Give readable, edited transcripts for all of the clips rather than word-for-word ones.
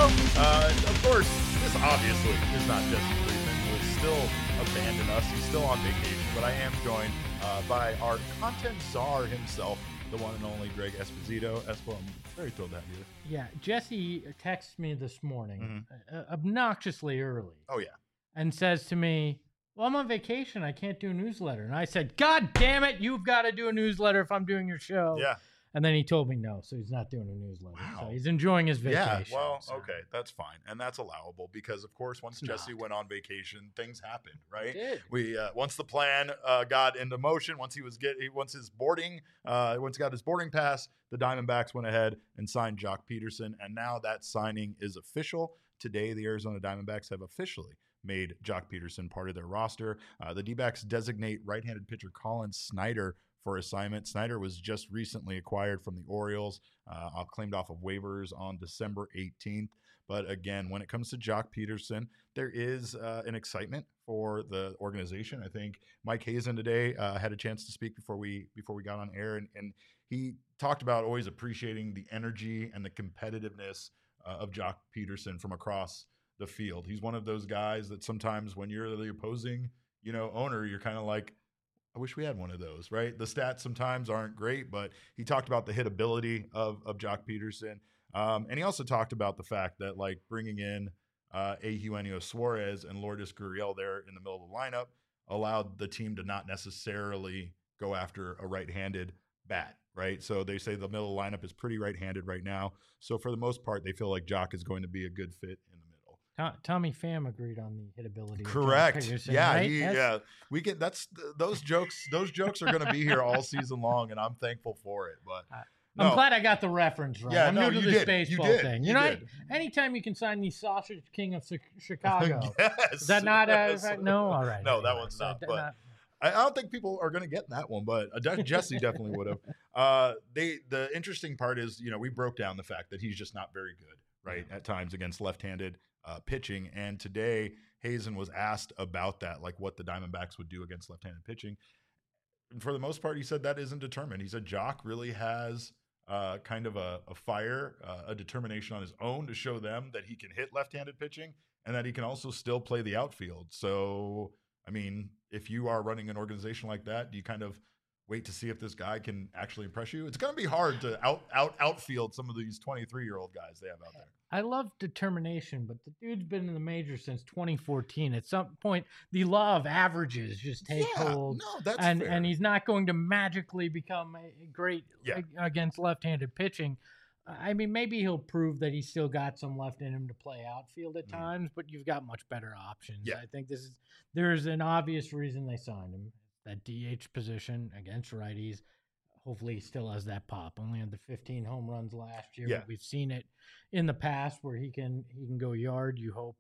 Of course, this obviously is not Jesse Friedman, who has still abandoned us. He's still on vacation, but I am joined by our content czar himself, the one and only Greg Esposito. Espo, I'm very thrilled to have you. Yeah, Jesse texts me this morning, obnoxiously early. Oh, yeah. And says to me, well, I'm on vacation. I can't do a newsletter. And I said, God damn it, you've got to do a newsletter if I'm doing your show. Yeah. And then he told me no, so he's not doing a newsletter. Wow. So he's enjoying his vacation. Yeah, well, so. okay, that's fine. And that's allowable because, of course, once Jesse went on vacation, things happened, right? It did. We once the plan got into motion, once he got his boarding pass, the Diamondbacks went ahead and signed Joc Pederson, and now that signing is official. Today, the Arizona Diamondbacks have officially made Joc Pederson part of their roster. The D-backs designate right-handed pitcher Colin Snyder for assignment. Snyder was just recently acquired from the Orioles, claimed off of waivers on December 18th. But again, when it comes to Joc Pederson, there is an excitement for the organization. I think Mike Hazen today had a chance to speak before we got on air, and he talked about always appreciating the energy and the competitiveness of Joc Pederson from across the field. He's one of those guys that sometimes when you're the opposing, owner, you're kind of like, I wish we had one of those, right? The stats sometimes aren't great, but he talked about the hitability of Joc Pederson. And he also talked about the fact that like bringing in Eugenio Suarez and Lourdes Gurriel there in the middle of the lineup allowed the team to not necessarily go after a right-handed bat, right? So they say the middle lineup is pretty right-handed right now. So for the most part, they feel like Joc is going to be a good fit in the middle. Tommy Pham agreed on the hitability. Correct. Pederson, Yeah, right? we get those jokes. Those jokes are going to be here all season long, and I'm thankful for it. But I'm glad I got the reference right. Yeah, I'm new to this baseball thing. You did. Anytime you can sign the Sausage King of Chicago, yes. is that not no? All right. No, that one's not. But I don't think people are going to get that one, but Jesse definitely would have. The interesting part is, we broke down the fact that he's just not very good, right, at times against left-handed pitching. And today, Hazen was asked about that, like what the Diamondbacks would do against left-handed pitching. And for the most part, he said that isn't determined. He said Joc really has kind of a fire, a determination on his own to show them that he can hit left-handed pitching and that he can also still play the outfield. So, I mean, if you are running an organization like that, do you kind of wait to see if this guy can actually impress you? It's going to be hard to outfield some of these 23-year-old guys they have out there. I love determination, but the dude's been in the majors since 2014. At some point, the law of averages just take hold. No, that's fair. And he's not going to magically become a great against left-handed pitching. I mean, maybe he'll prove that he's still got some left in him to play outfield at times, but you've got much better options. Yeah. I think there's an obvious reason they signed him. That DH position against righties. Hopefully he still has that pop. Only had the 15 home runs last year. Yeah. But we've seen it in the past where he can go yard. You hope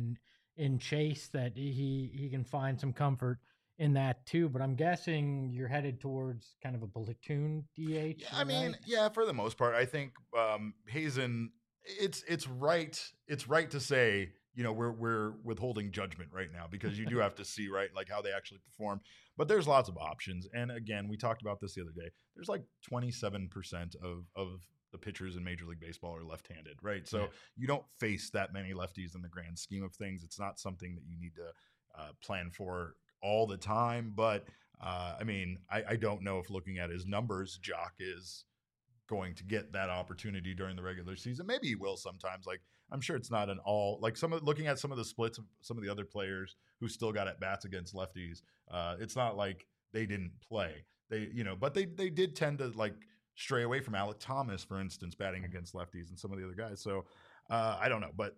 in Chase that he can find some comfort in that too. But I'm guessing you're headed towards kind of a platoon DH. Yeah, I mean, for the most part, I think Hazen. It's right to say, we're withholding judgment right now because you do have to see, right, like how they actually perform. But there's lots of options. And again, we talked about this the other day. There's like 27% of the pitchers in Major League Baseball are left-handed, right? So you don't face that many lefties in the grand scheme of things. It's not something that you need to plan for all the time. But I mean, I don't know if looking at his numbers, Joc is going to get that opportunity during the regular season. Maybe he will sometimes. Like, I'm sure it's not an all, like looking at some of the splits of some of the other players who still got at bats against lefties. It's not like they didn't play. But they did tend to like stray away from Alek Thomas, for instance, batting against lefties and some of the other guys. So I don't know, but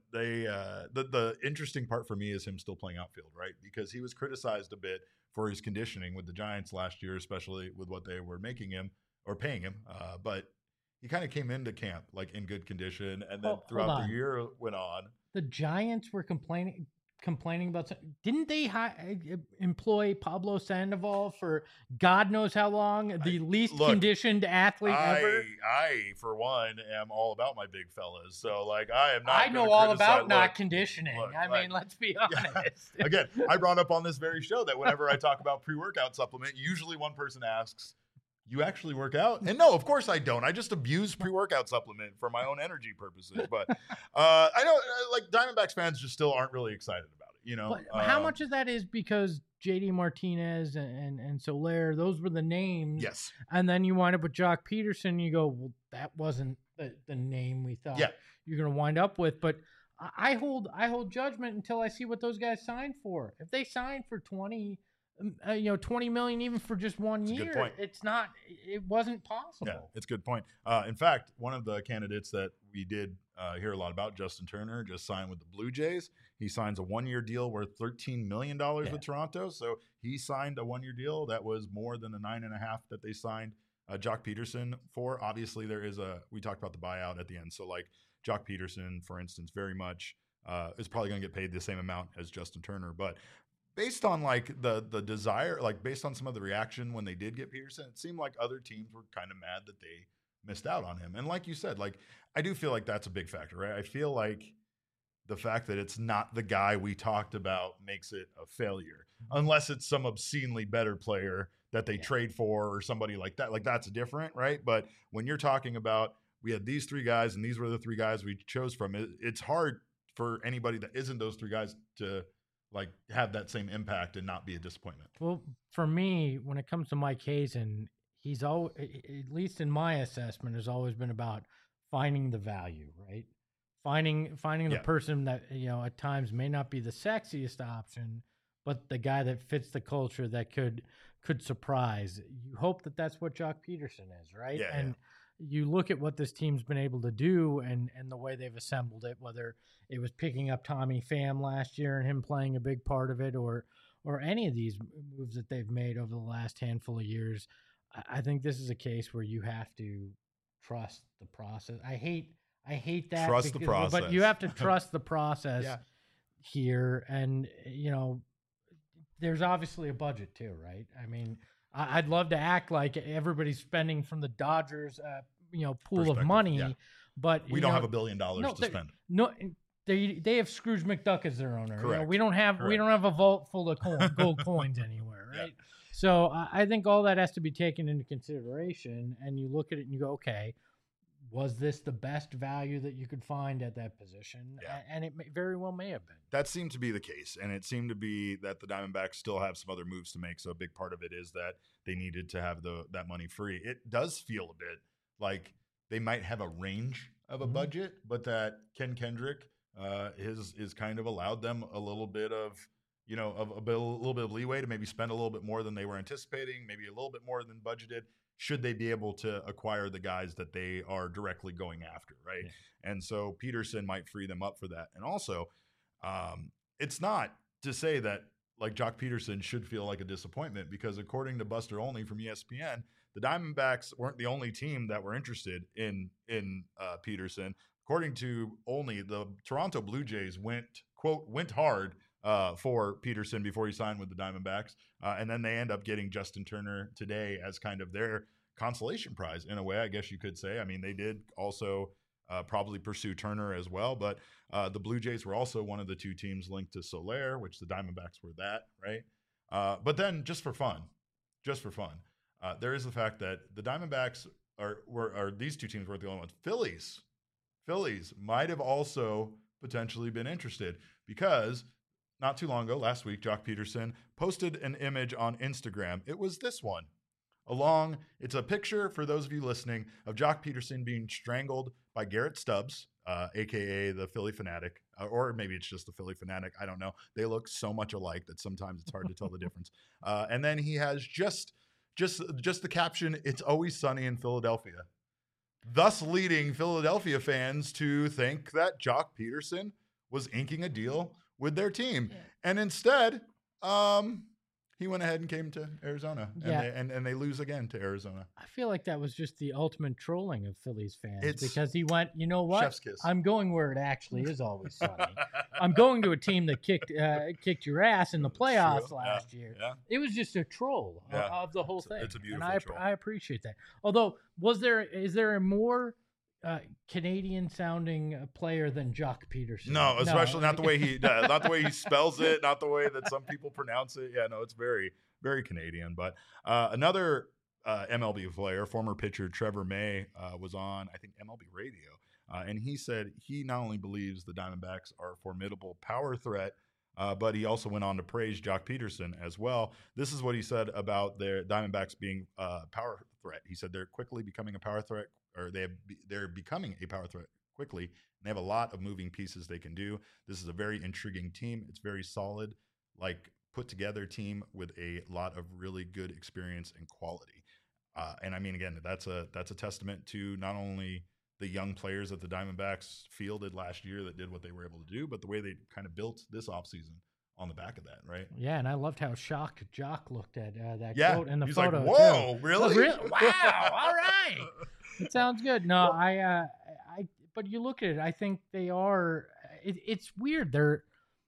the interesting part for me is him still playing outfield, right? Because he was criticized a bit for his conditioning with the Giants last year, especially with what they were making him or paying him. But he kind of came into camp like in good condition, and then throughout the year went on. The Giants were complaining about. Didn't they employ Pablo Sandoval for God knows how long? The least conditioned athlete ever. I, for one, am all about my big fellas. So, like, I am not. I know all about not conditioning. I mean, let's be honest. Yeah. Again, I brought up on this very show that whenever I talk about pre-workout supplement, usually one person asks, You actually work out? And no, of course I don't. I just abuse pre-workout supplement for my own energy purposes. But I know, like Diamondbacks fans just still aren't really excited about it. You know, But how much of that is because JD Martinez and Soler, those were the names. Yes. And then you wind up with Jock Peterson. And you go, well, that wasn't the name we thought you're going to wind up with. But I hold judgment until I see what those guys signed for. If they signed for 20 million even for just 1 year, good point. it wasn't possible. Yeah, it's a good point. In fact, one of the candidates that we did hear a lot about, Justin Turner, just signed with the Blue Jays. He signs a 1-year deal worth $13 million with Toronto. So he signed a 1-year deal that was more than the 9.5 that they signed Jock Peterson for. Obviously, we talked about the buyout at the end. So like Jock Peterson, for instance, very much is probably going to get paid the same amount as Justin Turner. But based on like the desire, like based on some of the reaction when they did get Peterson, it seemed like other teams were kind of mad that they missed out on him. And like you said, like I do feel like that's a big factor, right? I feel like the fact that it's not the guy we talked about makes it a failure, unless it's some obscenely better player that they trade for or somebody like that. Like that's different, right? But when you're talking about we had these 3 guys and these were the 3 guys we chose from, it's hard for anybody that isn't those 3 guys to like have that same impact and not be a disappointment. Well, for me, when it comes to Mike Hazen, he's always, at least in my assessment, has always been about finding the value, right? Finding the person that, at times may not be the sexiest option, but the guy that fits the culture that could surprise. You hope that that's what Jock Peterson is, right? Yeah, and you look at what this team's been able to do and the way they've assembled it, whether it was picking up Tommy Pham last year and him playing a big part of it, or any of these moves that they've made over the last handful of years. I think this is a case where you have to trust the process. I hate that. Trust the process. But you have to trust the process here. And, there's obviously a budget too, right? I mean, I'd love to act like everybody's spending from the Dodgers, pool of money, but we don't have $1 billion to spend. No, they have Scrooge McDuck as their owner. Correct. We don't have a vault full of gold coins anywhere, right? Yeah. So I think all that has to be taken into consideration, and you look at it and you go, okay, was this the best value that you could find at that position? Yeah. And it very well may have been. That seemed to be the case, and it seemed to be that the Diamondbacks still have some other moves to make. So a big part of it is that they needed to have that money free. It does feel a bit like they might have a range of a budget, but that Ken Kendrick is kind of allowed them a little bit of a little bit of leeway to maybe spend a little bit more than they were anticipating, maybe a little bit more than budgeted, should they be able to acquire the guys that they are directly going after, right? Yeah. And so Peterson might free them up for that. And also, it's not to say that like Jock Peterson should feel like a disappointment, because according to Buster Olney from ESPN, the Diamondbacks weren't the only team that were interested in Peterson. According to Olney, the Toronto Blue Jays went hard for Peterson before he signed with the Diamondbacks. And then they end up getting Justin Turner today as kind of their consolation prize in a way, I guess you could say. I mean, they did also probably pursue Turner as well, but the Blue Jays were also one of the 2 teams linked to Soler, which the Diamondbacks were that, right? But then just for fun, there is the fact that the Diamondbacks are these 2 teams weren't the only ones. Phillies might have also potentially been interested, because not too long ago, last week, Jock Peterson posted an image on Instagram. It was this one. It's a picture, for those of you listening, of Jock Peterson being strangled by Garrett Stubbs, a.k.a. the Philly Fanatic, or maybe it's just the Philly Fanatic. I don't know. They look so much alike that sometimes it's hard to tell the difference. And then he has just the caption, "It's always sunny in Philadelphia," thus leading Philadelphia fans to think that Jock Peterson was inking a deal with their team. Yeah. And instead, he went ahead and came to Arizona, and they lose again to Arizona. I feel like that was just the ultimate trolling of Phillies fans, because he went, you know what? Chef's kiss. I'm going where it actually is always sunny. I'm going to a team that kicked your ass in the playoffs last year. Yeah. It was just a troll of the whole thing. It's a beautiful troll. I appreciate that. Although, is there a more Canadian-sounding player than Jock Peterson? No, especially not the way not the way he spells it, not the way that some people pronounce it. Yeah, no, it's very, very Canadian. But another MLB player, former pitcher Trevor May was on, I think, MLB Radio. And he said he not only believes the Diamondbacks are a formidable power threat, but he also went on to praise Jock Peterson as well. This is what he said about their Diamondbacks being a power threat. He said they're quickly becoming a power threat, or they're becoming a power threat quickly. And they have a lot of moving pieces they can do. This is a very intriguing team. It's very solid, like put together team with a lot of really good experience and quality. And I mean, again, that's a testament to not only the young players that the Diamondbacks fielded last year that did what they were able to do, but the way they kind of built this offseason on the back of that, right? Yeah, and I loved how shocked Jock looked at that Yeah, quote in the he's photo. like, "Whoa, too. really? Wow, all right, it sounds good." No, well, but you look at it, I think they are. It's weird. They're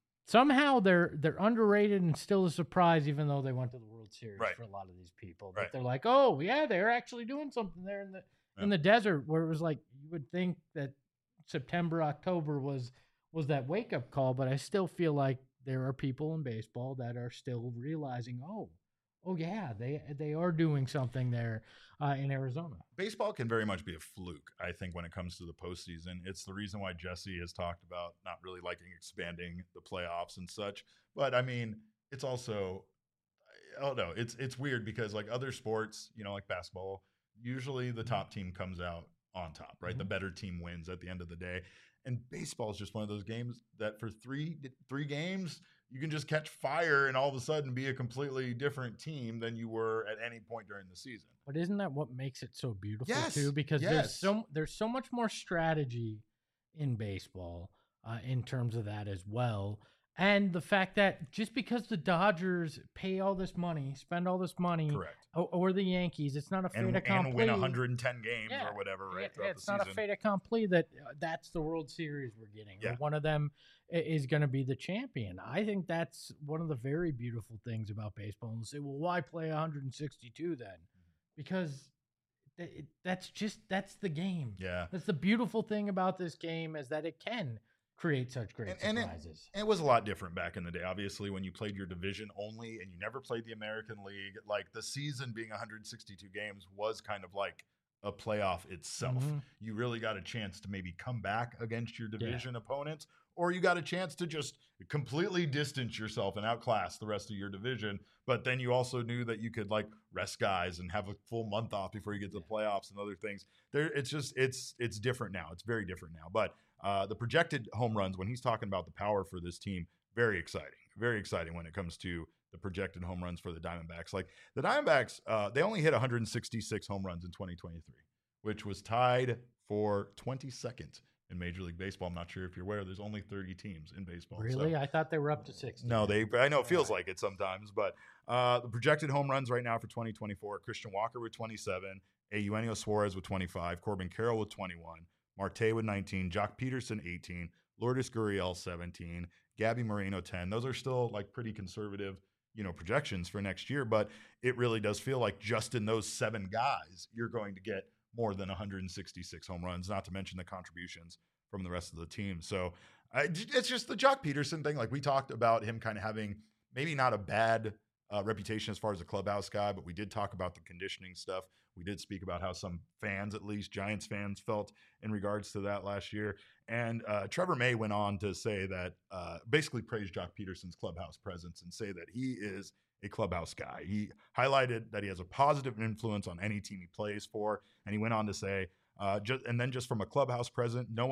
underrated and still a surprise, even though they went to the World Series Right. for a lot of these people. Right. But they're like, oh yeah, they're actually doing something there in the desert, where it was like you would think that September, October was that wake up call. But I still feel like there are people in baseball that are still realizing, oh yeah, they are doing something there in Arizona. Baseball can very much be a fluke, I think, when it comes to the postseason. It's the reason why Jesse has talked about not really liking expanding the playoffs and such. But I mean, it's also, I don't know, it's weird because like other sports, like basketball, usually the top team comes out on top, right? Mm-hmm. The better team wins at the end of the day. And baseball is just one of those games that for three games, you can just catch fire and all of a sudden be a completely different team than you were at any point during the season. But isn't that what makes it so beautiful yes, too? Because yes. there's so much more strategy in baseball in terms of that as well. And the fact that just because the Dodgers pay all this money, spend all this money, correct, or the Yankees, it's not a fait accompli. And win 110 games or whatever, right? It's not a fait accompli that that's the World Series we're getting. Yeah. Or one of them is going to be the champion. I think that's one of the very beautiful things about baseball. And say, well, why play 162 then? Because that's the game. Yeah. That's the beautiful thing about this game, is that it can create such great surprises. And it was a lot different back in the day. Obviously, when you played your division only and you never played the American League, like the season being 162 games was kind of like a playoff itself. Mm-hmm. You really got a chance to maybe come back against your division opponents, or you got a chance to just completely distance yourself and outclass the rest of your division. But then you also knew that you could like rest guys and have a full month off before you get to the playoffs and other things. It's different now. It's very different now. But the projected home runs, when he's talking about the power for this team, very exciting when it comes to the projected home runs for the Diamondbacks. Like the Diamondbacks, they only hit 166 home runs in 2023, which was tied for 22nd in Major League Baseball. I'm not sure if you're aware, there's only 30 teams in baseball. Really? So, I thought they were up to 60. No, I know it feels like it sometimes, but the projected home runs right now for 2024, Christian Walker with 27, Eugenio Suarez with 25, Corbin Carroll with 21, Marte with 19, Jock Peterson 18, Lourdes Gurriel 17, Gabby Moreno 10. Those are still like pretty conservative, projections for next year, but it really does feel like just in those 7 guys, you're going to get more than 166 home runs, not to mention the contributions from the rest of the team. So it's just the Jock Peterson thing. Like we talked about him kind of having maybe not a bad reputation as far as a clubhouse guy, but we did talk about the conditioning stuff. We did speak about how some fans, at least Giants fans, felt in regards to that last year. And Trevor May went on to say that basically praise Jock Peterson's clubhouse presence and say that he is a clubhouse guy. He highlighted that he has a positive influence on any team he plays for. And he went on to say, just from a clubhouse presence, no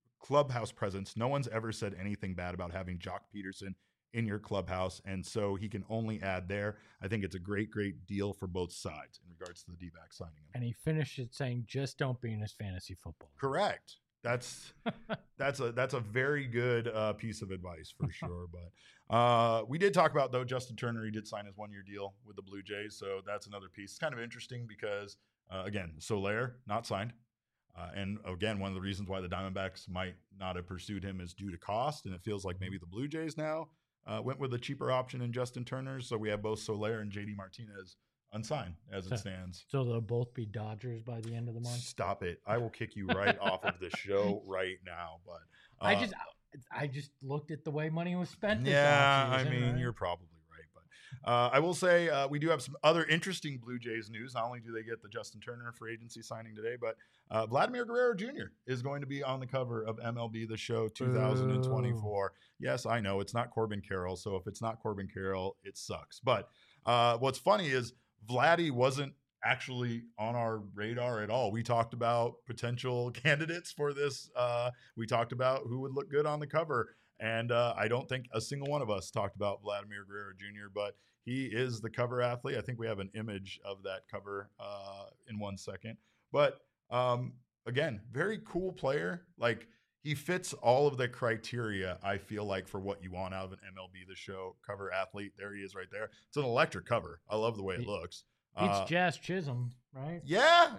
one's ever said anything bad about having Jock Peterson in your clubhouse, and so he can only add there. I think it's a great deal for both sides in regards to the D-back signing him. And he finished it saying, just don't be in his fantasy football. Correct. That's a very good piece of advice for sure. But we did talk about, though, Justin Turner. He did sign his 1-year deal with the Blue Jays, so that's another piece. It's kind of interesting because, again, Soler not signed. And again, one of the reasons why the Diamondbacks might not have pursued him is due to cost, and it feels like maybe the Blue Jays now went with a cheaper option in Justin Turner. So we have both Soler and JD Martinez unsigned as it stands. So they'll both be Dodgers by the end of the month? Stop it. I will kick you right off of the show right now. But I just looked at the way money was spent this offseason, I mean, right? You're probably right. I will say we do have some other interesting Blue Jays news. Not only do they get the Justin Turner free agency signing today, but Vladimir Guerrero Jr. is going to be on the cover of MLB The Show 2024. Yes, I know it's not Corbin Carroll, so if it's not Corbin Carroll, it sucks. But what's funny is Vladdy wasn't actually on our radar at all. We talked about potential candidates for this. We talked about who would look good on the cover. And I don't think a single one of us talked about Vladimir Guerrero Jr., but he is the cover athlete. I think we have an image of that cover in 1 second. But again, very cool player. Like, he fits all of the criteria, I feel like, for what you want out of an MLB The Show cover athlete. There he is right there. It's an electric cover. I love the way it looks. It's Jazz Chisholm, right? Yeah.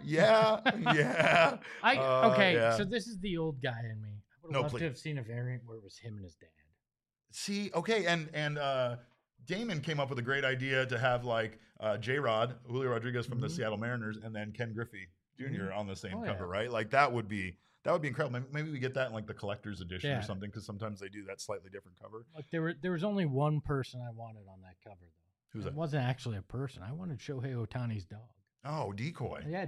Okay, so this is the old guy in me. I would love please. to have seen a variant where it was him and his dad. See, okay, and Damon came up with a great idea to have like J-Rod, Julio Rodriguez from the Seattle Mariners, and then Ken Griffey Jr. on the same cover, right? Like that would be incredible. Maybe we get that in like the collector's edition or something, because sometimes they do that slightly different cover. Like there was only one person I wanted on that cover though. Who's that? It wasn't actually a person. I wanted Shohei Ohtani's dog. Oh, Decoy. Yeah,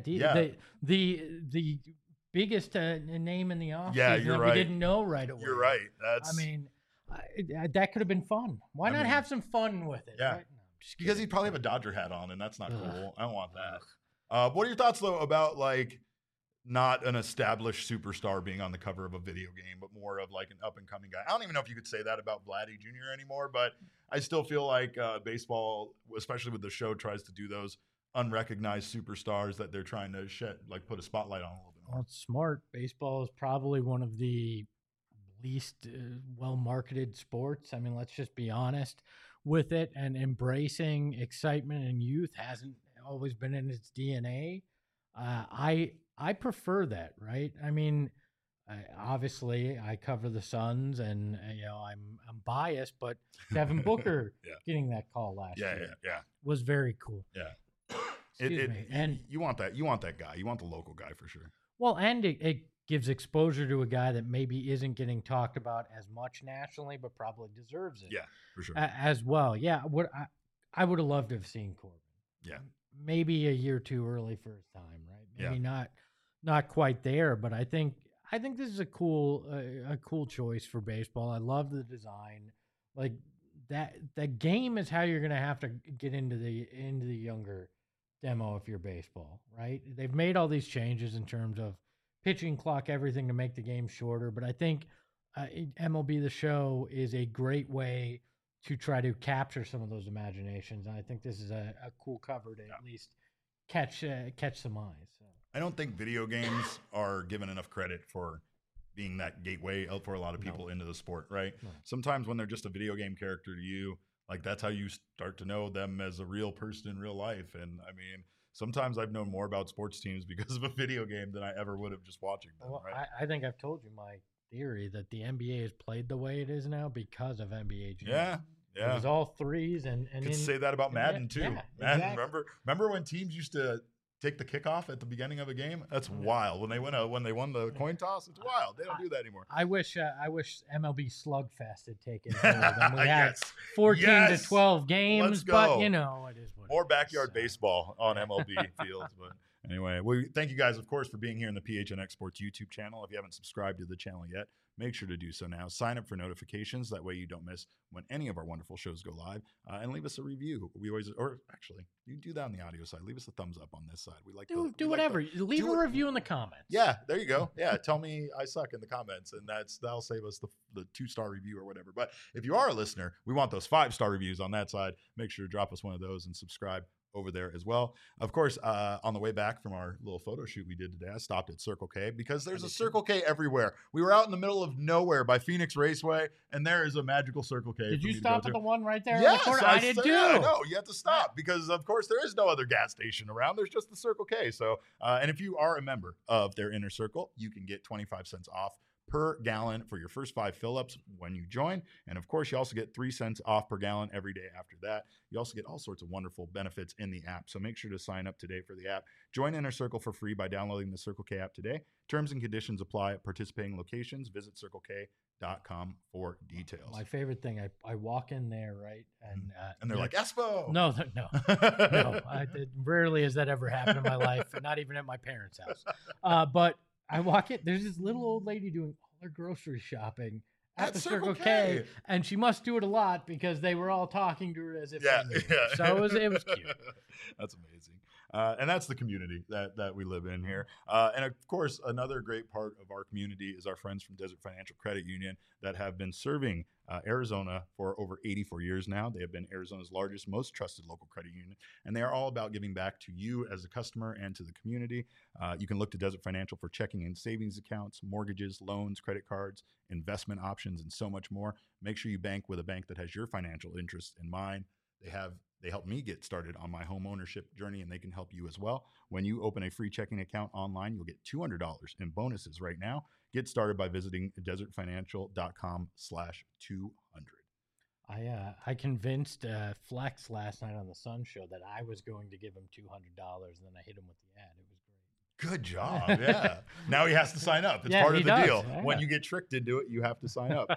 the biggest name in the offseason you're that right. we didn't know right away. You're right. I mean, that could have been fun. Why not have some fun with it? Yeah. Right? No, because he'd probably have a Dodger hat on, and that's not cool. I don't want that. What are your thoughts, though, about like not an established superstar being on the cover of a video game, but more of like an up-and-coming guy? I don't even know if you could say that about Vladdy Jr. anymore, but I still feel like baseball, especially with the show, tries to do those unrecognized superstars that they're trying to put a spotlight on a little bit more. Well, it's smart. Baseball is probably one of the least well-marketed sports. I mean, let's just be honest with it. And embracing excitement and youth hasn't always been in its DNA. I prefer that, right? I mean, obviously, I cover the Suns, and I'm biased, but Devin Booker getting that call last year was very cool. Yeah, Excuse me. And you want that guy. You want the local guy for sure. Well, and it gives exposure to a guy that maybe isn't getting talked about as much nationally, but probably deserves it. Yeah, for sure. As well. Yeah, I would have loved to have seen Corbin. Yeah, maybe a year too early for his time, right? Maybe not quite there, but I think this is a cool choice for baseball. I love the design. Like that game is how you're going to have to get into the younger demo if you're baseball, right? They've made all these changes in terms of pitching clock, everything to make the game shorter, but I think MLB The Show is a great way to try to capture some of those imaginations, and I think this is a cool cover to at least catch some eyes. So. I don't think video games are given enough credit for being that gateway for a lot of people into the sport, right? No. Sometimes when they're just a video game character to you, like that's how you start to know them as a real person in real life. And I mean, sometimes I've known more about sports teams because of a video game than I ever would have just watching them. Well, right? I think I've told you my theory that the NBA is played the way it is now because of NBA Jam. Yeah. It was all threes, and you could say that about Madden too. Yeah, Madden, exactly. remember when teams used to take the kickoff at the beginning of a game? That's wild. When they won the coin toss, it's wild. They don't do that anymore. I wish MLB Slugfest had taken hold, and we had 14 to 12 games. Let's go. But it is what more it backyard is. baseball on MLB fields. But anyway, we thank you guys, of course, for being here in the PHNX Sports YouTube channel. If you haven't subscribed to the channel yet, make sure to do so now. Sign up for notifications. That way you don't miss when any of our wonderful shows go live. And leave us a review. You do that on the audio side. Leave us a thumbs up on this side. We like do whatever. Leave a review in the comments. Yeah, there you go. Yeah, tell me I suck in the comments, and that'll save us the 2-star review or whatever. But if you are a listener, we want those 5-star reviews on that side. Make sure to drop us one of those and subscribe over there as well. Of course, on the way back from our little photo shoot we did today, I stopped at Circle K because there's a Circle K everywhere. We were out in the middle of nowhere by Phoenix Raceway, and there is a magical Circle K. Did you stop at the one right there? Yes, I did too. Yeah, no, you have to stop because, of course, there is no other gas station around. There's just the Circle K. So, and if you are a member of their inner circle, you can get 25 cents off per gallon for your first 5 fill-ups when you join. And of course, you also get 3 cents off per gallon every day after that. You also get all sorts of wonderful benefits in the app. So make sure to sign up today for the app. Join Inner Circle for free by downloading the Circle K app today. Terms and conditions apply at participating locations. Visit CircleK.com for details. My favorite thing, I walk in there, right? And they're like, Espo! No. Rarely has that ever happened in my life, not even at my parents' house. But I walk in, there's this little old lady doing all her grocery shopping at the Circle K, and she must do it a lot because they were all talking to her as if they knew her. So it was cute. That's amazing. And that's the community that we live in here. And of course, another great part of our community is our friends from Desert Financial Credit Union that have been serving Arizona for over 84 years now. They have been Arizona's largest, most trusted local credit union, and they are all about giving back to you as a customer and to the community. You can look to Desert Financial for checking and savings accounts, mortgages, loans, credit cards, investment options, and so much more. Make sure you bank with a bank that has your financial interests in mind. They helped me get started on my home ownership journey, and they can help you as well. When you open a free checking account online, you'll get $200 in bonuses right now. Get started by visiting desertfinancial.com/200. I convinced Flex last night on the Sun Show that I was going to give him $200, and then I hit him with the ad. It was great. Good job. Yeah. Now he has to sign up. It's part of the deal. Yeah. When you get tricked into it, you have to sign up.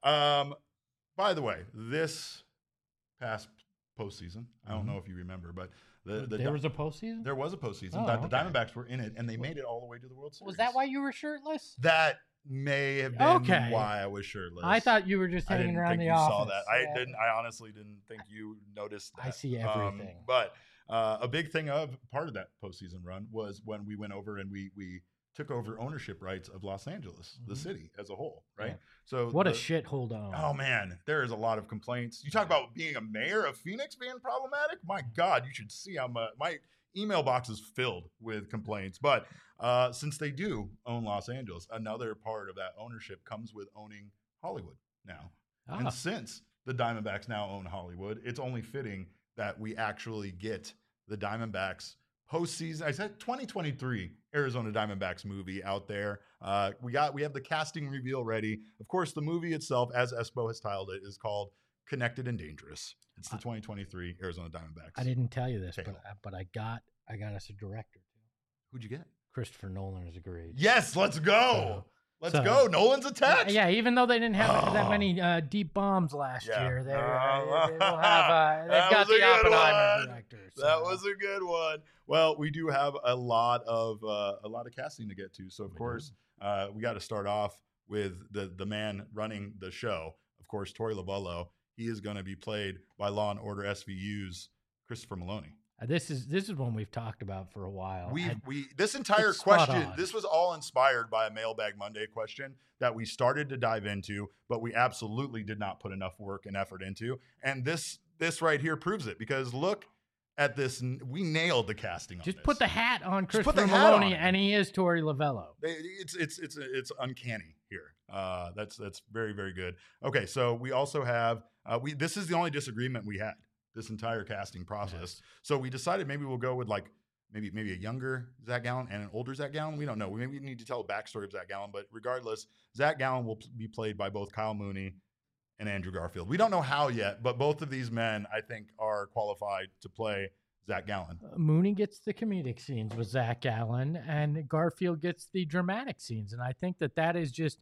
By the way, this past postseason, I don't know if you remember, but there was a postseason? There was a postseason. Oh, The Diamondbacks were in it, and they made it all the way to the World Series. Was that why you were shirtless? That may have been why I was shirtless. I thought you were just hanging around the office. Saw that. I honestly didn't think you noticed that. I see everything. But a big thing part of that postseason run was when we went over and we took over ownership rights of Los Angeles, the city as a whole, right? Yeah. So what a shithole to own. Oh man, there is a lot of complaints. You talk about being a mayor of Phoenix being problematic. My God, you should see how my email box is filled with complaints. But since they do own Los Angeles, another part of that ownership comes with owning Hollywood now. And since the Diamondbacks now own Hollywood, it's only fitting that we actually get the Diamondbacks postseason. I said 2023 Arizona Diamondbacks movie out there. We have the casting reveal ready. Of course, the movie itself, as Espo has titled it, is called Connected and Dangerous. It's the 2023 Arizona Diamondbacks. I didn't tell you this, but I got us a director too. Who'd you get? Christopher Nolan is agreed. Yes, let's go. Let's go. Nolan's attached. Yeah, even though they didn't have that many deep bombs last year, they will have. They've got the Oppenheimer director. So. That was a good one. Well, we do have a lot of casting to get to. So of course, we got to start off with the man running the show. Of course, Torey Lovullo. He is going to be played by Law and Order SVU's Christopher Maloney. This is one we've talked about for a while. This entire question, this was all inspired by a Mailbag Monday question that we started to dive into, but we absolutely did not put enough work and effort into. And this right here proves it, because look at this. We nailed the casting on this. Just put the hat on Christopher Maloney, and he is Torey Lovullo. It's uncanny here. That's very, very good. Okay, so we also have this is the only disagreement we had this entire casting process. Yes. So we decided maybe we'll go with maybe a younger Zach Gallen and an older Zach Gallen. We don't know. Maybe we need to tell the backstory of Zach Gallen, but regardless, Zach Gallen will be played by both Kyle Mooney and Andrew Garfield. We don't know how yet, but both of these men, I think, are qualified to play Zach Gallen. Mooney gets the comedic scenes with Zach Gallen, and Garfield gets the dramatic scenes. And I think that is just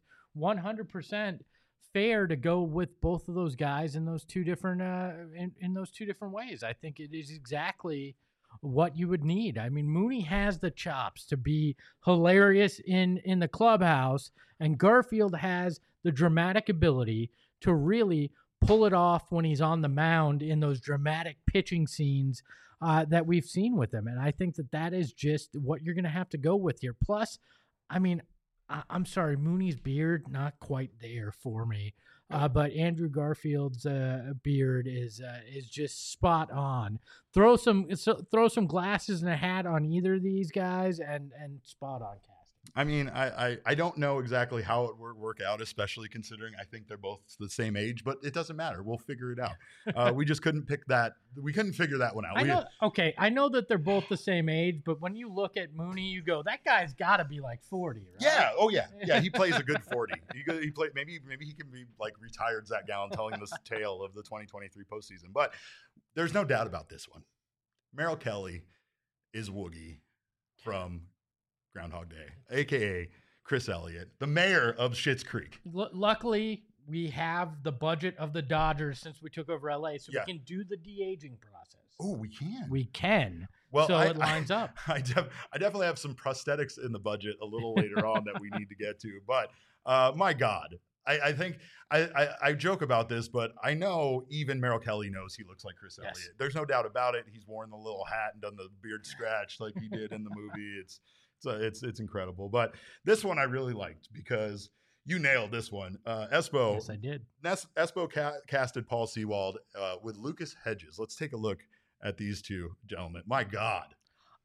100% fair to go with both of those guys in those two different in those two different ways. I think it is exactly what you would need. I mean, Mooney has the chops to be hilarious in the clubhouse, and Garfield has the dramatic ability to really pull it off when he's on the mound in those dramatic pitching scenes that we've seen with him. And I think that is just what you're going to have to go with here. Plus, I mean, I'm sorry, Mooney's beard, not quite there for me. But Andrew Garfield's beard is just spot on. Throw some glasses and a hat on either of these guys, and spot on casting. I mean, I don't know exactly how it would work out, especially considering I think they're both the same age, but it doesn't matter. We'll figure it out. We just couldn't pick that. We couldn't figure that one out. I know. Okay, I know that they're both the same age, but when you look at Mooney, you go, that guy's got to be like 40, right? Yeah. Oh yeah. Yeah. He plays a good 40. He played. Maybe he can be like retired Zach Gallen telling this tale of the 2023 postseason. But there's no doubt about this one. Merrill Kelly is Woogie from Groundhog Day, aka Chris Elliott, the mayor of Schitt's Creek. Luckily, we have the budget of the Dodgers since we took over LA, so Yeah. we can do the de-aging process. Oh, we can. We can. Well, so it lines up. I definitely have some prosthetics in the budget a little later on that we need to get to. But my God, I think I joke about this, but I know even Merrill Kelly knows he looks like Chris Yes. Elliott. There's no doubt about it. He's worn the little hat and done the beard scratch like he did in the movie. It's incredible. But this one I really liked because you nailed this one. Espo. Yes, I did. Espo casted Paul Sewald with Lucas Hedges. Let's take a look at these two gentlemen. My God.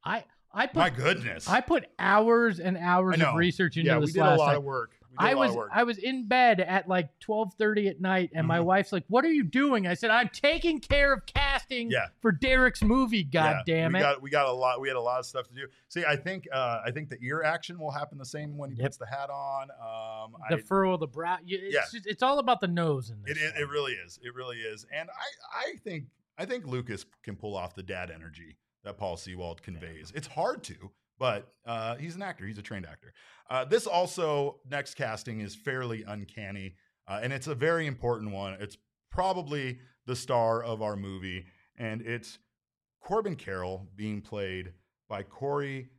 My goodness. I put hours and hours of research into this last night. Of work. I was in bed at like 12:30 at night, and my wife's like, "What are you doing?" I said, "I'm taking care of casting for Derek's movie." God damn it! We got a lot. We had a lot of stuff to do. See, I think the ear action will happen the same when he puts the hat on. The furrow of the brow. It's all about the nose in this. It really is. It really is. And I think Lucas can pull off the dad energy that Paul Sewald conveys. It's hard to, but he's an actor. He's a trained actor. This also, next casting is fairly uncanny, and it's a very important one. It's probably the star of our movie, and it's Corbin Carroll being played by Corey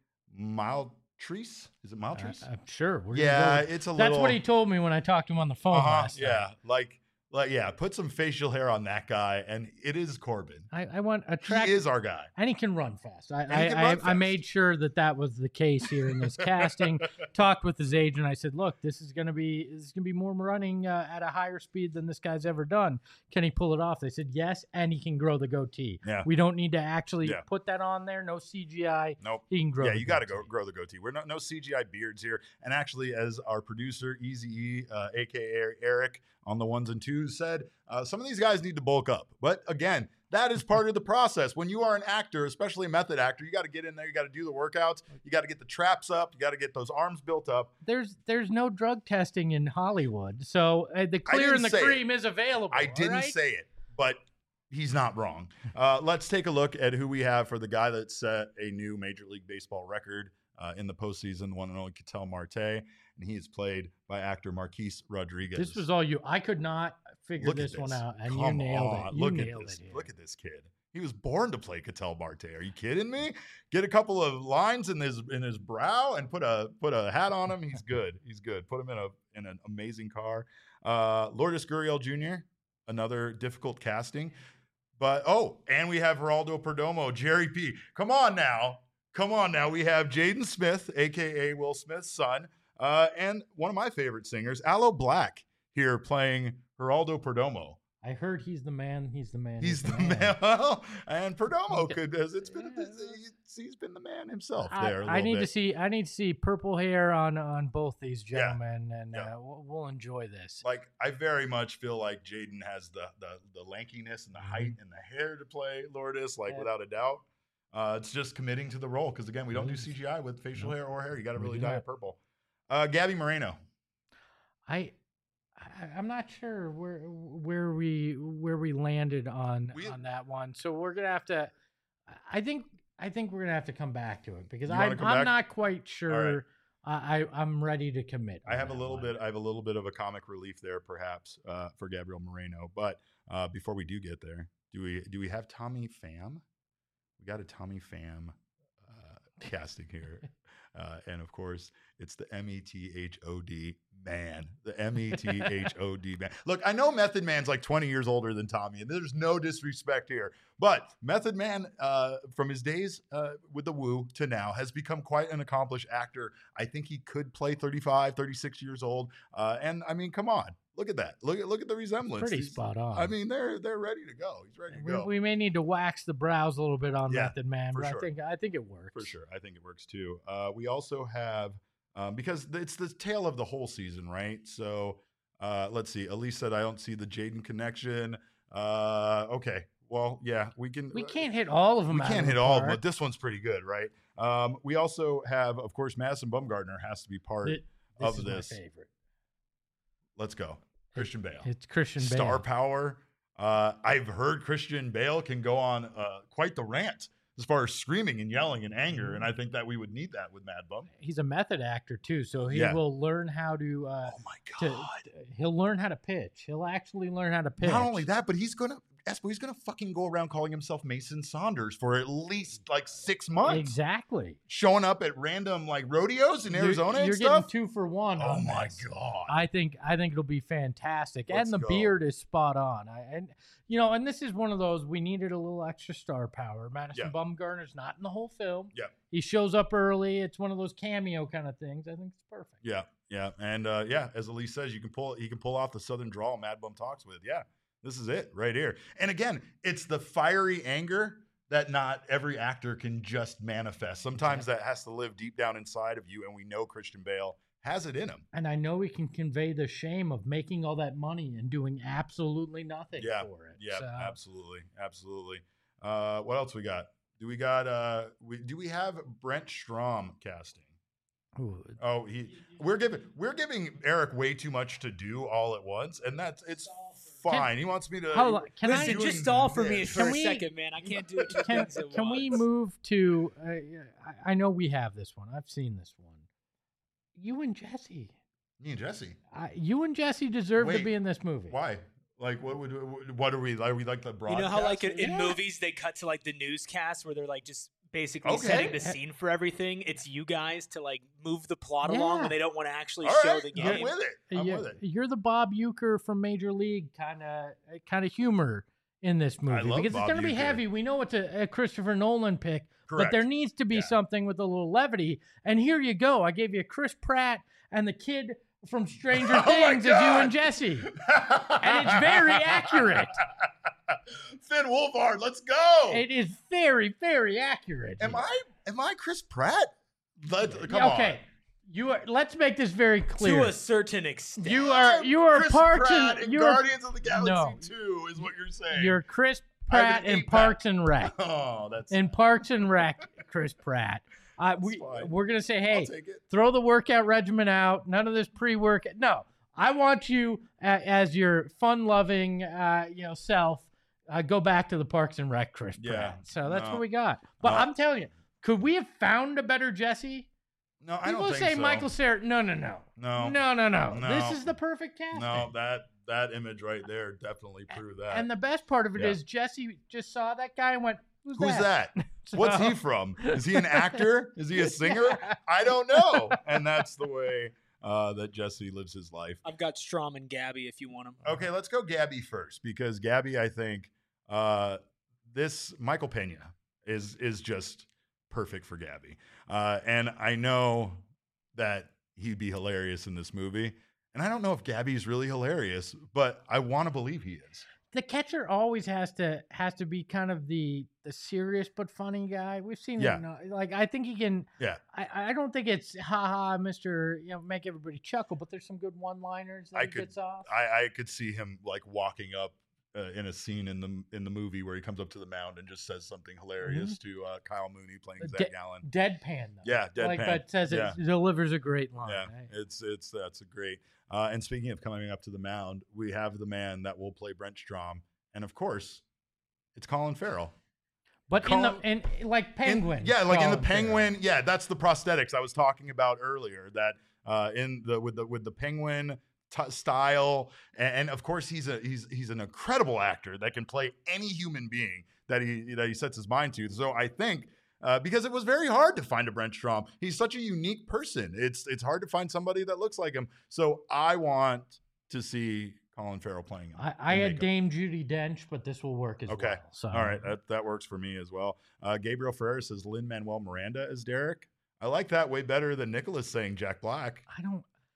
Maltese. Is it Maltese? I'm sure. It's a little. That's what he told me when I talked to him on the phone last night. Put some facial hair on that guy, and it is Corbin. I want a track. He is our guy, and he can run fast. I made sure that was the case here in this casting. Talked with his agent. I said, "Look, this is gonna be more running at a higher speed than this guy's ever done. Can he pull it off?" They said yes, and he can grow the goatee. Yeah. We don't need to actually put that on there. No CGI. Nope. He can grow. Yeah, you got to grow the goatee. We're no CGI beards here. And actually, as our producer Eazy-E, aka Eric, on the ones and twos said, some of these guys need to bulk up. But again, that is part of the process. When you are an actor, especially a method actor, you got to get in there. You got to do the workouts. You got to get the traps up. You got to get those arms built up. There's no drug testing in Hollywood, so the clear and the cream is available. I didn't say it, but he's not wrong. Let's take a look at who we have for the guy that set a new Major League Baseball record in the postseason, the one and only Ketel Marte. And he is played by actor Marquise Rodriguez. This was all you. I could not figure this one out, and you nailed it. You nailed it. Look at this kid. He was born to play Ketel Marte. Are you kidding me? Get a couple of lines in his brow and put a hat on him. He's good. He's good. Put him in an amazing car. Lourdes Gurriel Jr., another difficult casting. But and we have Geraldo Perdomo, Jerry P. Come on now. We have Jaden Smith, aka Will Smith's son. And one of my favorite singers, Aloe Black, here playing Geraldo Perdomo. I heard he's the man. He's the man. He's the man. Well, and Perdomo he's been the man himself there. I need to see purple hair on both these gentlemen, and we'll enjoy this. Like, I very much feel like Jaden has the lankiness and the height and the hair to play Lourdes, without a doubt. It's just committing to the role because again, we don't do CGI with facial hair or hair. You got to really dye it purple. Gabby Moreno. I'm not sure where we landed on that one. So we're gonna have to. I think we're gonna have to come back to it because I'm not quite sure. Right. I'm ready to commit. I have a little bit of a comic relief there, perhaps, for Gabriel Moreno. But before we do get there, do we have Tommy Pham? We got a Tommy Pham casting here. And of course, it's the METHOD man. The METHOD man. Look, I know Method Man's like 20 years older than Tommy, and there's no disrespect here. But Method Man, from his days with the Woo to now, has become quite an accomplished actor. I think he could play 35, 36 years old. And I mean, come on. Look at that. Look at the resemblance. Pretty spot on. I mean, they're ready to go. He's ready to go. We may need to wax the brows a little bit on Method Man, but sure. I think it works. For sure. I think it works too. We also have because it's the tale of the whole season, right? So let's see. Elise said, I don't see the Jaden connection. Okay. Well, yeah, we can't hit all of them. We can't hit all of them, but this one's pretty good, right? We also have, of course, Madison Bumgarner has to be part of this. My favorite. Let's go. Christian Bale. It's Christian Bale. Star power. I've heard Christian Bale can go on quite the rant as far as screaming and yelling and anger, and I think that we would need that with Mad Bum. He's a method actor too, so he will learn how to. Oh my God! He'll learn how to pitch. He'll actually learn how to pitch. Not only that, but he's gonna fucking go around calling himself Mason Saunders for at least like 6 months. Exactly. Showing up at random like rodeos in Arizona. You're getting 2 for 1. Oh my God! I think it'll be fantastic, Let's and the go. beard is spot on. And this is one of those we needed a little extra star power. Madison Bumgarner's not in the whole film. Yeah. He shows up early. It's one of those cameo kind of things. I think it's perfect. Yeah, yeah, and as Elise says, he can pull off the Southern drawl Mad Bum talks with. Yeah, this is it right here. And again, it's the fiery anger that not every actor can just manifest. Sometimes that has to live deep down inside of you, and we know Christian Bale has it in him. And I know he can convey the shame of making all that money and doing absolutely nothing for it. Yeah, so. Absolutely. What else we got? Do we have Brent Strom casting? Ooh. Oh, we're giving Eric way too much to do all at once, and it's fine. He wants me to listen. Just stall for me for a second, man. I can't do it two things at once. Can we move to? I know we have this one. I've seen this one. You and Jesse. Me and Jesse. You and Jesse deserve to be in this movie. Why? Like, what are we? Are we like the broadcast? You know how like in movies they cut to like the newscast where they're like just basically setting the scene for everything. It's you guys to like move the plot along, and they don't want to actually show the game. I'm with it. You're the Bob Uecker from Major League kind of humor in this movie because it's going to be heavy. We know it's a Christopher Nolan pick. Correct. But there needs to be something with a little levity. And here you go. I gave you Chris Pratt and the kid from Stranger Things as you and Jesse. And it's very accurate. Finn Wolfhard, let's go. It is very, very accurate. Am I Chris Pratt? Come on. Let's make this very clear. To a certain extent. You are Chris Parks Pratt in Guardians of the Galaxy No. 2 is what you're saying. You're Chris Pratt in Parks and Rec. Oh, that's in Parks and Rec, Chris Pratt. We're gonna say, hey, throw the workout regimen out. None of this pre-work. No, I want you as your fun-loving, self. Go back to the Parks and Rec, Chris Pratt. So that's what we got. But I'm telling you, could we have found a better Jesse? No, I don't think so. People say Michael Cera. No. This is the perfect casting. No, that image right there definitely proved that. And the best part of it is Jesse just saw that guy and went, Who's that? What's he from? Is he an actor? Is he a singer? I don't know. And that's the way that Jesse lives his life. I've got Strom and Gabby if you want them. Okay, let's go Gabby first because Gabby, I think this Michael Pena is just perfect for Gabby. And I know that he'd be hilarious in this movie. And I don't know if Gabby's really hilarious, but I want to believe he is. The catcher always has to be kind of the serious but funny guy. We've seen him. Like I think he can. Yeah. I don't think it's Mr. Make everybody chuckle, but there's some good one-liners that he gets off. I could see him like walking up in a scene in the movie where he comes up to the mound and just says something hilarious to Kyle Mooney playing Zach Gallen. Deadpan though. Yeah, deadpan. But says it delivers a great line. Yeah, right? That's a great. And speaking of coming up to the mound, we have the man that will play Brent Strom, and of course, it's Colin Farrell. But in like Penguin, in the Penguin, that's the prosthetics I was talking about earlier. That with the Penguin style, and of course he's an incredible actor that can play any human being that he sets his mind to. So I think. Because it was very hard to find a Brent Strom. He's such a unique person. It's hard to find somebody that looks like him. So I want to see Colin Farrell playing him. I had Dame Judi Dench, but this will work as well. So. All right, that works for me as well. Gabriel Ferrer says Lin-Manuel Miranda as Derek. I like that way better than Nicholas saying Jack Black.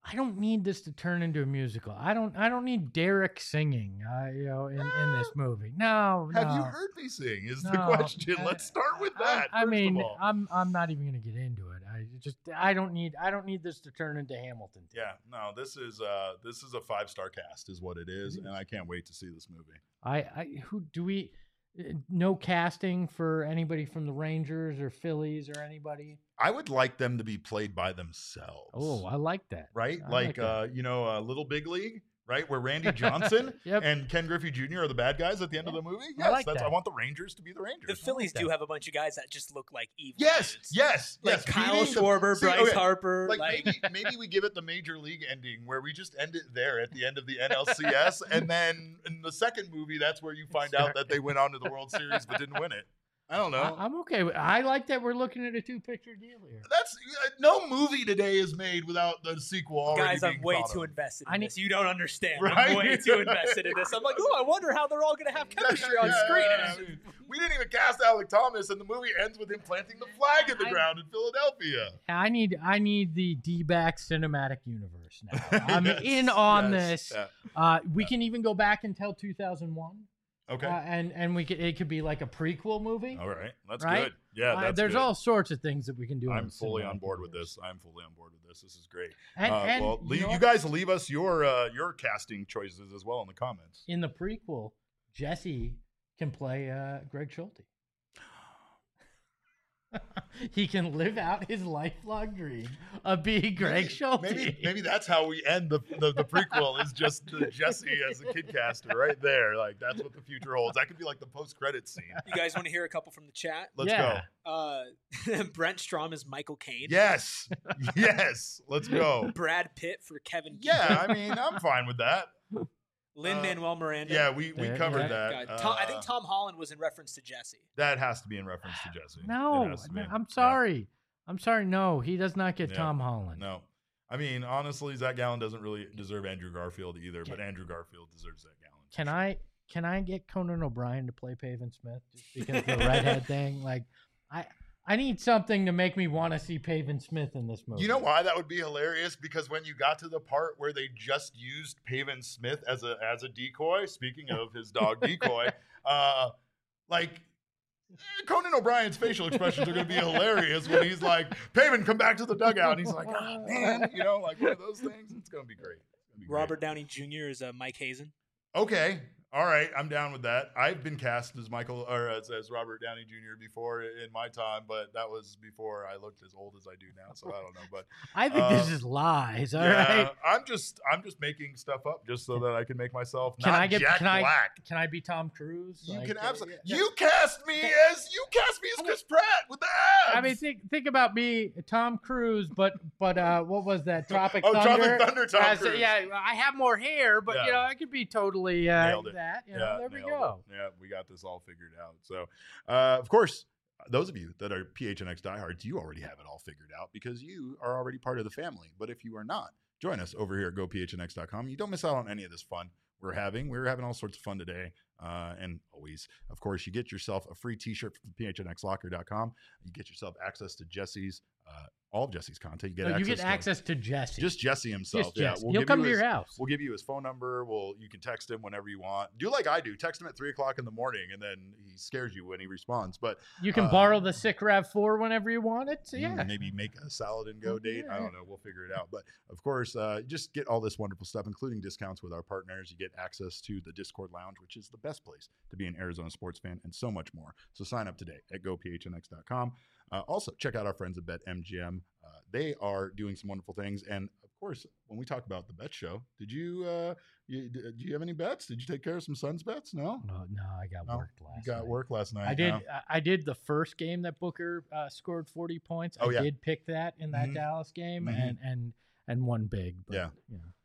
I don't need this to turn into a musical. I don't need Derek singing, in this movie. No. Have you heard me sing? Is the No, question. Let's start with that. I mean, first of all. I'm not even gonna get into it. I don't need this to turn into Hamilton. Yeah, no, this is a 5-star cast, is what it is, and I can't wait to see this movie. Who do we? No casting for anybody from the Rangers or Phillies or anybody. I would like them to be played by themselves. Oh, I like that. Right? I like that. Little Big League, right? Where Randy Johnson Yep. and Ken Griffey Jr. are the bad guys at the end of the movie. I Yes, like I that. want the Rangers to be the Rangers. The Phillies do have a bunch of guys that just look like evil. Yes, dudes. yes, Like yes. Kyle Beating the- Schwarber, See, Bryce okay, Harper. Like maybe we give it the major league ending where we just end it there at the end of the NLCS, and then in the second movie, that's where you find out that they went on to the World Series but didn't win it. I don't know. I'm okay. I like that we're looking at a 2-picture deal here. That's no movie today is made without the sequel already. Guys, being I'm way thought too of. invested I in need- this. You don't understand. Right? I'm way too invested in this. I'm like, oh, I wonder how they're all going to have chemistry on screen. Yeah, I mean, we didn't even cast Alec Thomas, and the movie ends with him planting the flag in the ground in Philadelphia. I need the D-back cinematic universe now. I'm Yes, in on yes, this. yeah. We can even go back until 2001. Okay. And it could be like a prequel movie. All right. That's right? good. Yeah, that's there's good. all sorts of things that we can do. I'm in the fully on cinematic board with universe. this. I'm fully on board with this. This is great. And Well, you know you what? guys leave us your casting choices as well in the comments. In the prequel, Jesse can play Greg Schulte. He can live out his lifelong dream of being Greg Schulte. Maybe that's how we end the prequel is just Jesse as a kid caster right there. Like that's what the future holds. That could be like the post-credits scene. You guys want to hear a couple from the chat? Let's Yeah. Brent Strom is Michael Caine. go. Yes. Let's go. Brad Pitt for Kevin Keegan. Yeah, I mean, I'm fine with that. Lin-Manuel Miranda. Yeah, we Yeah, covered yeah. that. God, I think Tom Holland was in reference to Jesse. That has to be in reference to Jesse. It No, has to be. I'm sorry. I'm sorry. No, he does not get Yeah. Tom Holland. No. I mean, honestly, Zach Gallen doesn't really deserve Andrew Garfield either, but Andrew Garfield deserves Zach Gallen. for sure. Can I get Conan O'Brien to play Pavin Smith just because of the redhead thing? Like, I need something to make me want to see Pavin Smith in this movie. You know why that would be hilarious? Because when you got to the part where they just used Pavin Smith as a decoy, speaking of his dog Decoy, Conan O'Brien's facial expressions are going to be hilarious when he's like, Pavin, come back to the dugout. And he's like, oh, man, like one of those things. It's going to be great. It's gonna be great. Robert Downey Jr. is Mike Hazen. Okay. All right, I'm down with that. I've been cast as as Robert Downey Jr. before in my time, but that was before I looked as old as I do now, so I don't know. But I think this is lies. All right. I'm just making stuff up just so that I can make myself Can not I get? Jack Black. Can I be Tom Cruise? You Like, can absolutely. yeah. You cast me as Chris Pratt with the abs. I mean, think about me, Tom Cruise, but what was that? Tropic Oh, Thunder. Tropic Thunder, Tom Cruise. Yeah, I have more hair, but Yeah. I could be totally Nailed it. that. There we nailed go. it. Yeah, we got this all figured out. So, of course, those of you that are PHNX diehards, you already have it all figured out because you are already part of the family. But if you are not, join us over here at gophnx.com. You don't miss out on any of this fun we're having. We're having all sorts of fun today. And always, of course, you get yourself a free t-shirt from phnxlocker.com. You get yourself access to Jesse's, all of Jesse's content. You get access to Jesse. Just Jesse himself. Just Yeah, Jesse. He'll come to your house. We'll give you his phone number. You can text him whenever you want. Do like I do. Text him at 3:00 in the morning, and then he scares you when he responds. But You can borrow the Sick Rav4 whenever you want it. So, yeah. maybe make a salad and go date. I Yeah. don't know. We'll figure it out. But of course, just get all this wonderful stuff, including discounts with our partners. You get access to the Discord Lounge, which is the best place to be an Arizona sports fan, and so much more. So sign up today at gophnx.com. Also, check out our friends at BetMGM. They are doing some wonderful things. And of course, when we talk about the bet show, did you have any bets? Did you take care of some Suns bets? No? No, I got worked last night. You got work last night. I did. no? I did the first game that Booker scored 40 points. Oh, I yeah. did pick that in that Mhm. Dallas game Mhm. and won big. But, Yeah. You know.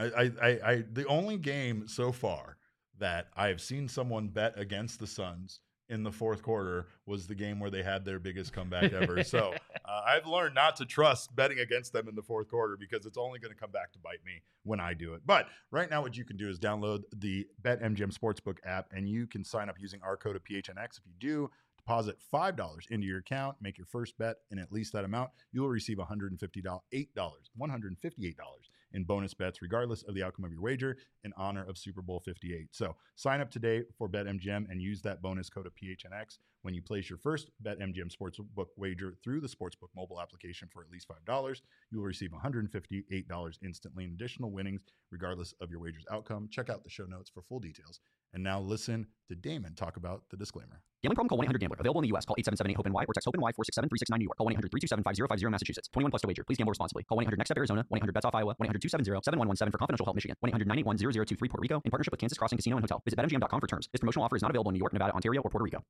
I the only game so far that I have seen someone bet against the Suns in the fourth quarter was the game where they had their biggest comeback ever. So I've learned not to trust betting against them in the fourth quarter because it's only going to come back to bite me when I do it. But right now what you can do is download the BetMGM Sportsbook app, and you can sign up using our code of PHNX. If you do, deposit $5 into your account, make your first bet in at least that amount, you will receive $158 in bonus bets, regardless of the outcome of your wager, in honor of Super Bowl 58. So sign up today for BetMGM and use that bonus code of PHNX when you place your first BetMGM Sportsbook wager through the Sportsbook mobile application for at least $5. You will receive $158 instantly in additional winnings, regardless of your wager's outcome. Check out the show notes for full details. And now listen to Damon talk about the disclaimer. Gambling problem? Call 1-800-GAMBLER. Available in the U.S. Call 877-8-HOPE-NY or text HOPE-NY 467-369 New York. Call 1-800-327-5050 Massachusetts. 21 plus to wager. Please gamble responsibly. Call 1-800-NEXT-STEP Arizona. 1-800-BETS-OFF Iowa. 1-800-270-7117 for confidential help Michigan. 1-800-981-0023 Puerto Rico in partnership with Kansas Crossing Casino and Hotel. Visit BetMGM.com for terms. This promotional offer is not available in New York, Nevada, Ontario, or Puerto Rico.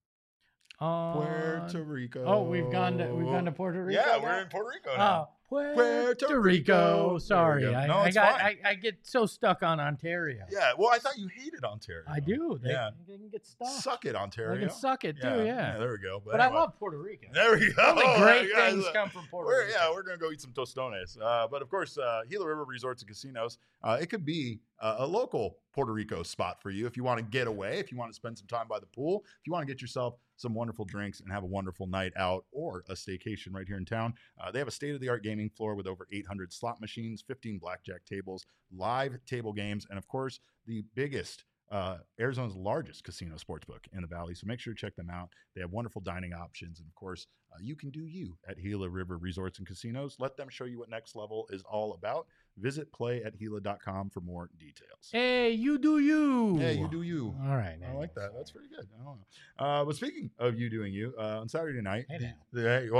Puerto Rico. Oh, we've gone to Puerto Rico. Yeah, now? we're in Puerto Rico now. Puerto Rico. Sorry, No, I get so stuck on Ontario. Yeah, well, I thought you hated Ontario. I do. They can get stuck. Suck it, Ontario. They can suck it too. Yeah. There we go. But anyway. I love Puerto Rico. There we go. Only great things come from Puerto Rico. Yeah, we're gonna go eat some tostones. But of course, Gila River Resorts and Casinos. It could be a local Puerto Rico spot for you if you want to get away, if you want to spend some time by the pool, if you want to get yourself some wonderful drinks and have a wonderful night out or a staycation right here in town. They have a state-of-the-art gaming floor with over 800 slot machines, 15 blackjack tables, live table games, and of course, the biggest Arizona's largest casino sportsbook in the Valley. So make sure to check them out. They have wonderful dining options. And of course, you can do you at Gila River Resorts and Casinos. Let them show you what next level is all about. Visit playathila.com for more details. Hey, you do you. Hey, you do you. All right. I like that. That's pretty good. I don't know. But speaking of you doing you, on Saturday night. Hey, wait.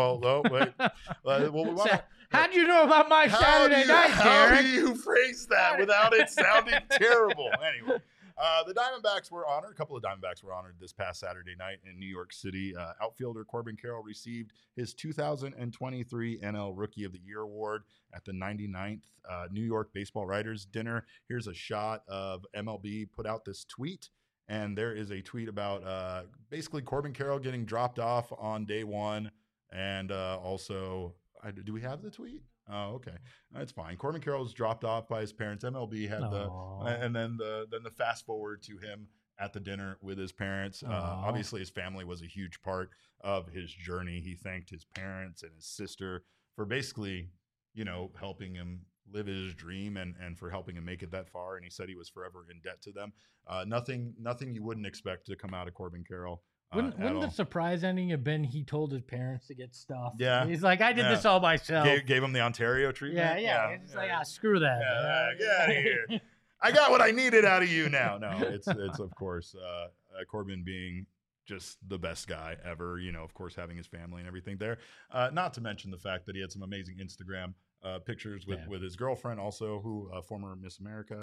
We wanna, how'd you know about my Saturday night, How Derek? do you phrase that without it sounding terrible? Anyway. The Diamondbacks were honored. A couple of Diamondbacks were honored this past Saturday night in New York City. Outfielder Corbin Carroll received his 2023 NL Rookie of the Year award at the 99th New York Baseball Writers Dinner. Here's a shot of MLB put out this tweet, and there is a tweet about basically Corbin Carroll getting dropped off on day one, and also, do we have the tweet? Oh, okay. That's fine. Corbin Carroll was dropped off by his parents. MLB had and then the fast forward to him at the dinner with his parents. Obviously, his family was a huge part of his journey. He thanked his parents and his sister for basically, helping him live his dream and for helping him make it that far. And he said he was forever in debt to them. Nothing you wouldn't expect to come out of Corbin Carroll. Wouldn't the surprise ending have been he told his parents to get stuff? Yeah. He's like, I did this all myself. Gave him the Ontario treatment? Yeah. It's like, screw that. Get out of here. I got what I needed out of you now. No, it's of course, Corbin being just the best guy ever, of course, having his family and everything there. Not to mention the fact that he had some amazing Instagram pictures with his girlfriend also, who former Miss America.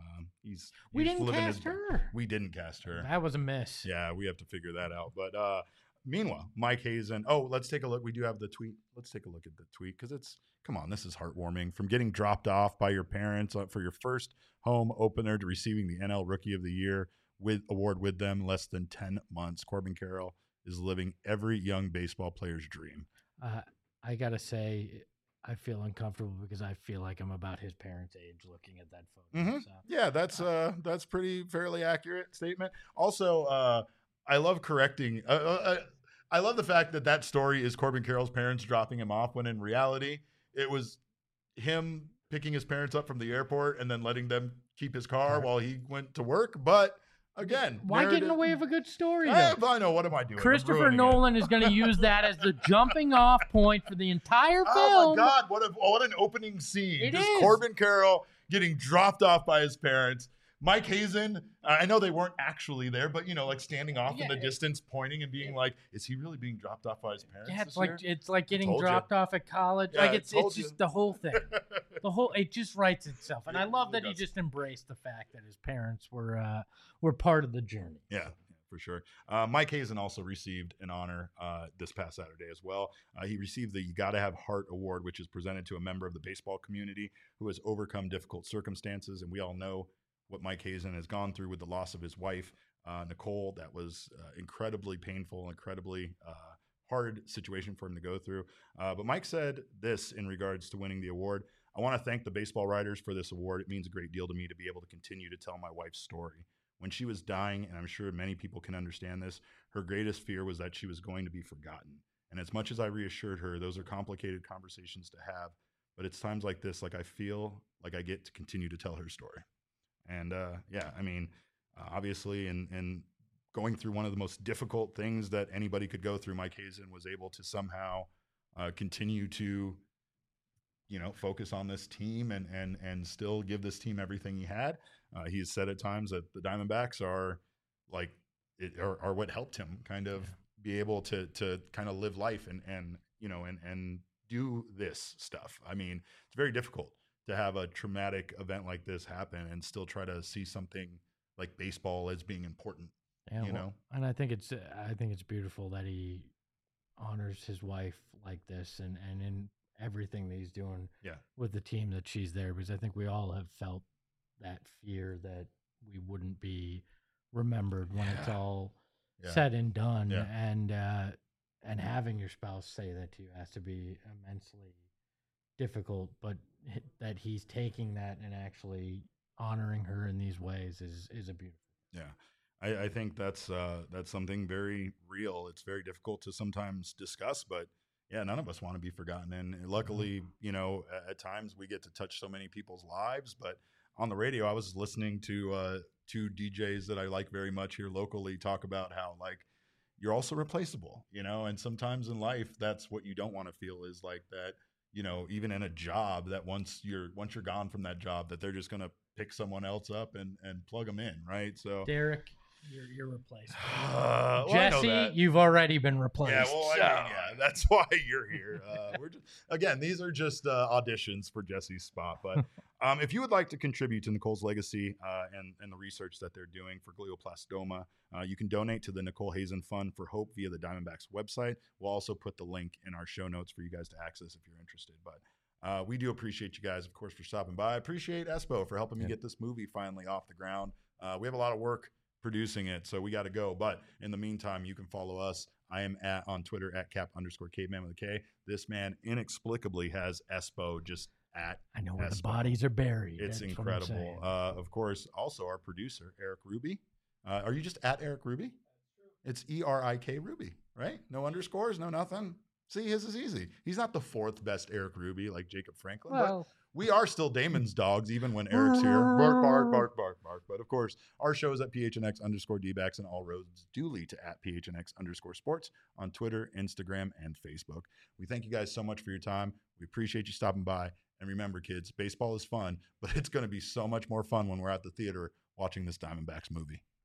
We didn't cast her. We didn't cast her. That was a miss. Yeah, we have to figure that out. But meanwhile, Mike Hazen. Oh, let's take a look. We do have the tweet. Let's take a look at the tweet because come on, this is heartwarming. From getting dropped off by your parents for your first home opener to receiving the NL Rookie of the Year award with them, less than 10 months. Corbin Carroll is living every young baseball player's dream. I gotta say, I feel uncomfortable because I feel like I'm about his parents' age looking at that photo. Mm-hmm. So. Yeah, that's pretty fairly accurate statement. Also, I love correcting. I love the fact that story is Corbin Carroll's parents dropping him off when in reality it was him picking his parents up from the airport and then letting them keep his car while he went to work. But again, why get in the way of a good story? I know. What am I doing? Christopher Nolan is going to use that as the jumping off point for the entire film. Oh my God! What an opening scene! It Just is. Corbin Carroll getting dropped off by his parents. Mike Hazen, I know they weren't actually there, but like standing off in the distance, pointing and being like, "Is he really being dropped off by his parents?" Yeah, this year? it's like getting dropped off at college. Yeah, it's just the whole thing. It just writes itself, and I love that he just embraced the fact that his parents were part of the journey. Yeah. For sure. Mike Hazen also received an honor this past Saturday as well. He received the You Gotta Have Heart Award, which is presented to a member of the baseball community who has overcome difficult circumstances. And we all know what Mike Hazen has gone through with the loss of his wife, Nicole. That was incredibly painful, incredibly hard situation for him to go through. But Mike said this in regards to winning the award. I want to thank the baseball writers for this award. It means a great deal to me to be able to continue to tell my wife's story. When she was dying, and I'm sure many people can understand this, her greatest fear was that she was going to be forgotten. And as much as I reassured her, those are complicated conversations to have, But it's times like this, like I feel like I get to continue to tell her story. And yeah, I mean, obviously, in going through one of the most difficult things that anybody could go through, Mike Hazen was able to somehow continue to, focus on this team and still give this team everything he had. He has said at times that the Diamondbacks are like are what helped him kind of be able to kind of live life and do this stuff. I mean, it's very difficult to have a traumatic event like this happen and still try to see something like baseball as being important. Yeah, you know, and I think it's beautiful that he honors his wife like this and in everything that he's doing with the team that she's there, because I think we all have felt that fear that we wouldn't be remembered when it's all said and done. And having your spouse say that to you has to be immensely difficult, but that he's taking that and actually honoring her in these ways is a beautiful. Yeah. I think that's something very real. It's very difficult to sometimes discuss, but yeah, none of us want to be forgotten. And luckily, at times we get to touch so many people's lives. But on the radio, I was listening to two DJs that I like very much here locally talk about how like you're also replaceable, and sometimes in life, that's what you don't want to feel is like that, even in a job that once you're gone from that job, that they're just going to pick someone else up and plug them in. Right. So Derek, you're replaced. Jesse, you've already been replaced. Yeah, well, that's why you're here. These are just auditions for Jesse's spot. But if you would like to contribute to Nicole's legacy and the research that they're doing for glioblastoma, you can donate to the Nicole Hazen Fund for Hope via the Diamondbacks website. We'll also put the link in our show notes for you guys to access if you're interested. But we do appreciate you guys, of course, for stopping by. I appreciate Espo for helping me get this movie finally off the ground. We have a lot of work producing it, so we got to go. But in the meantime, you can follow us. I am on Twitter at @cap_caveman with a K. This man inexplicably has Espo just at I know where Espo. the bodies are buried. It's That's incredible. Of course, also our producer, Eric Ruby. Are you just at Eric Ruby? It's ERIK Ruby, right? No underscores, no nothing. See, his is easy. He's not the fourth best Eric Ruby like Jacob Franklin, but we are still Damon's dogs even when Eric's here. Bark, bark, bark, bark, bark. But of course, our show is at PHNX_DBacks and all roads do lead to @PHNX_sports on Twitter, Instagram, and Facebook. We thank you guys so much for your time. We appreciate you stopping by. And remember, kids, baseball is fun, but it's going to be so much more fun when we're at the theater watching this Diamondbacks movie.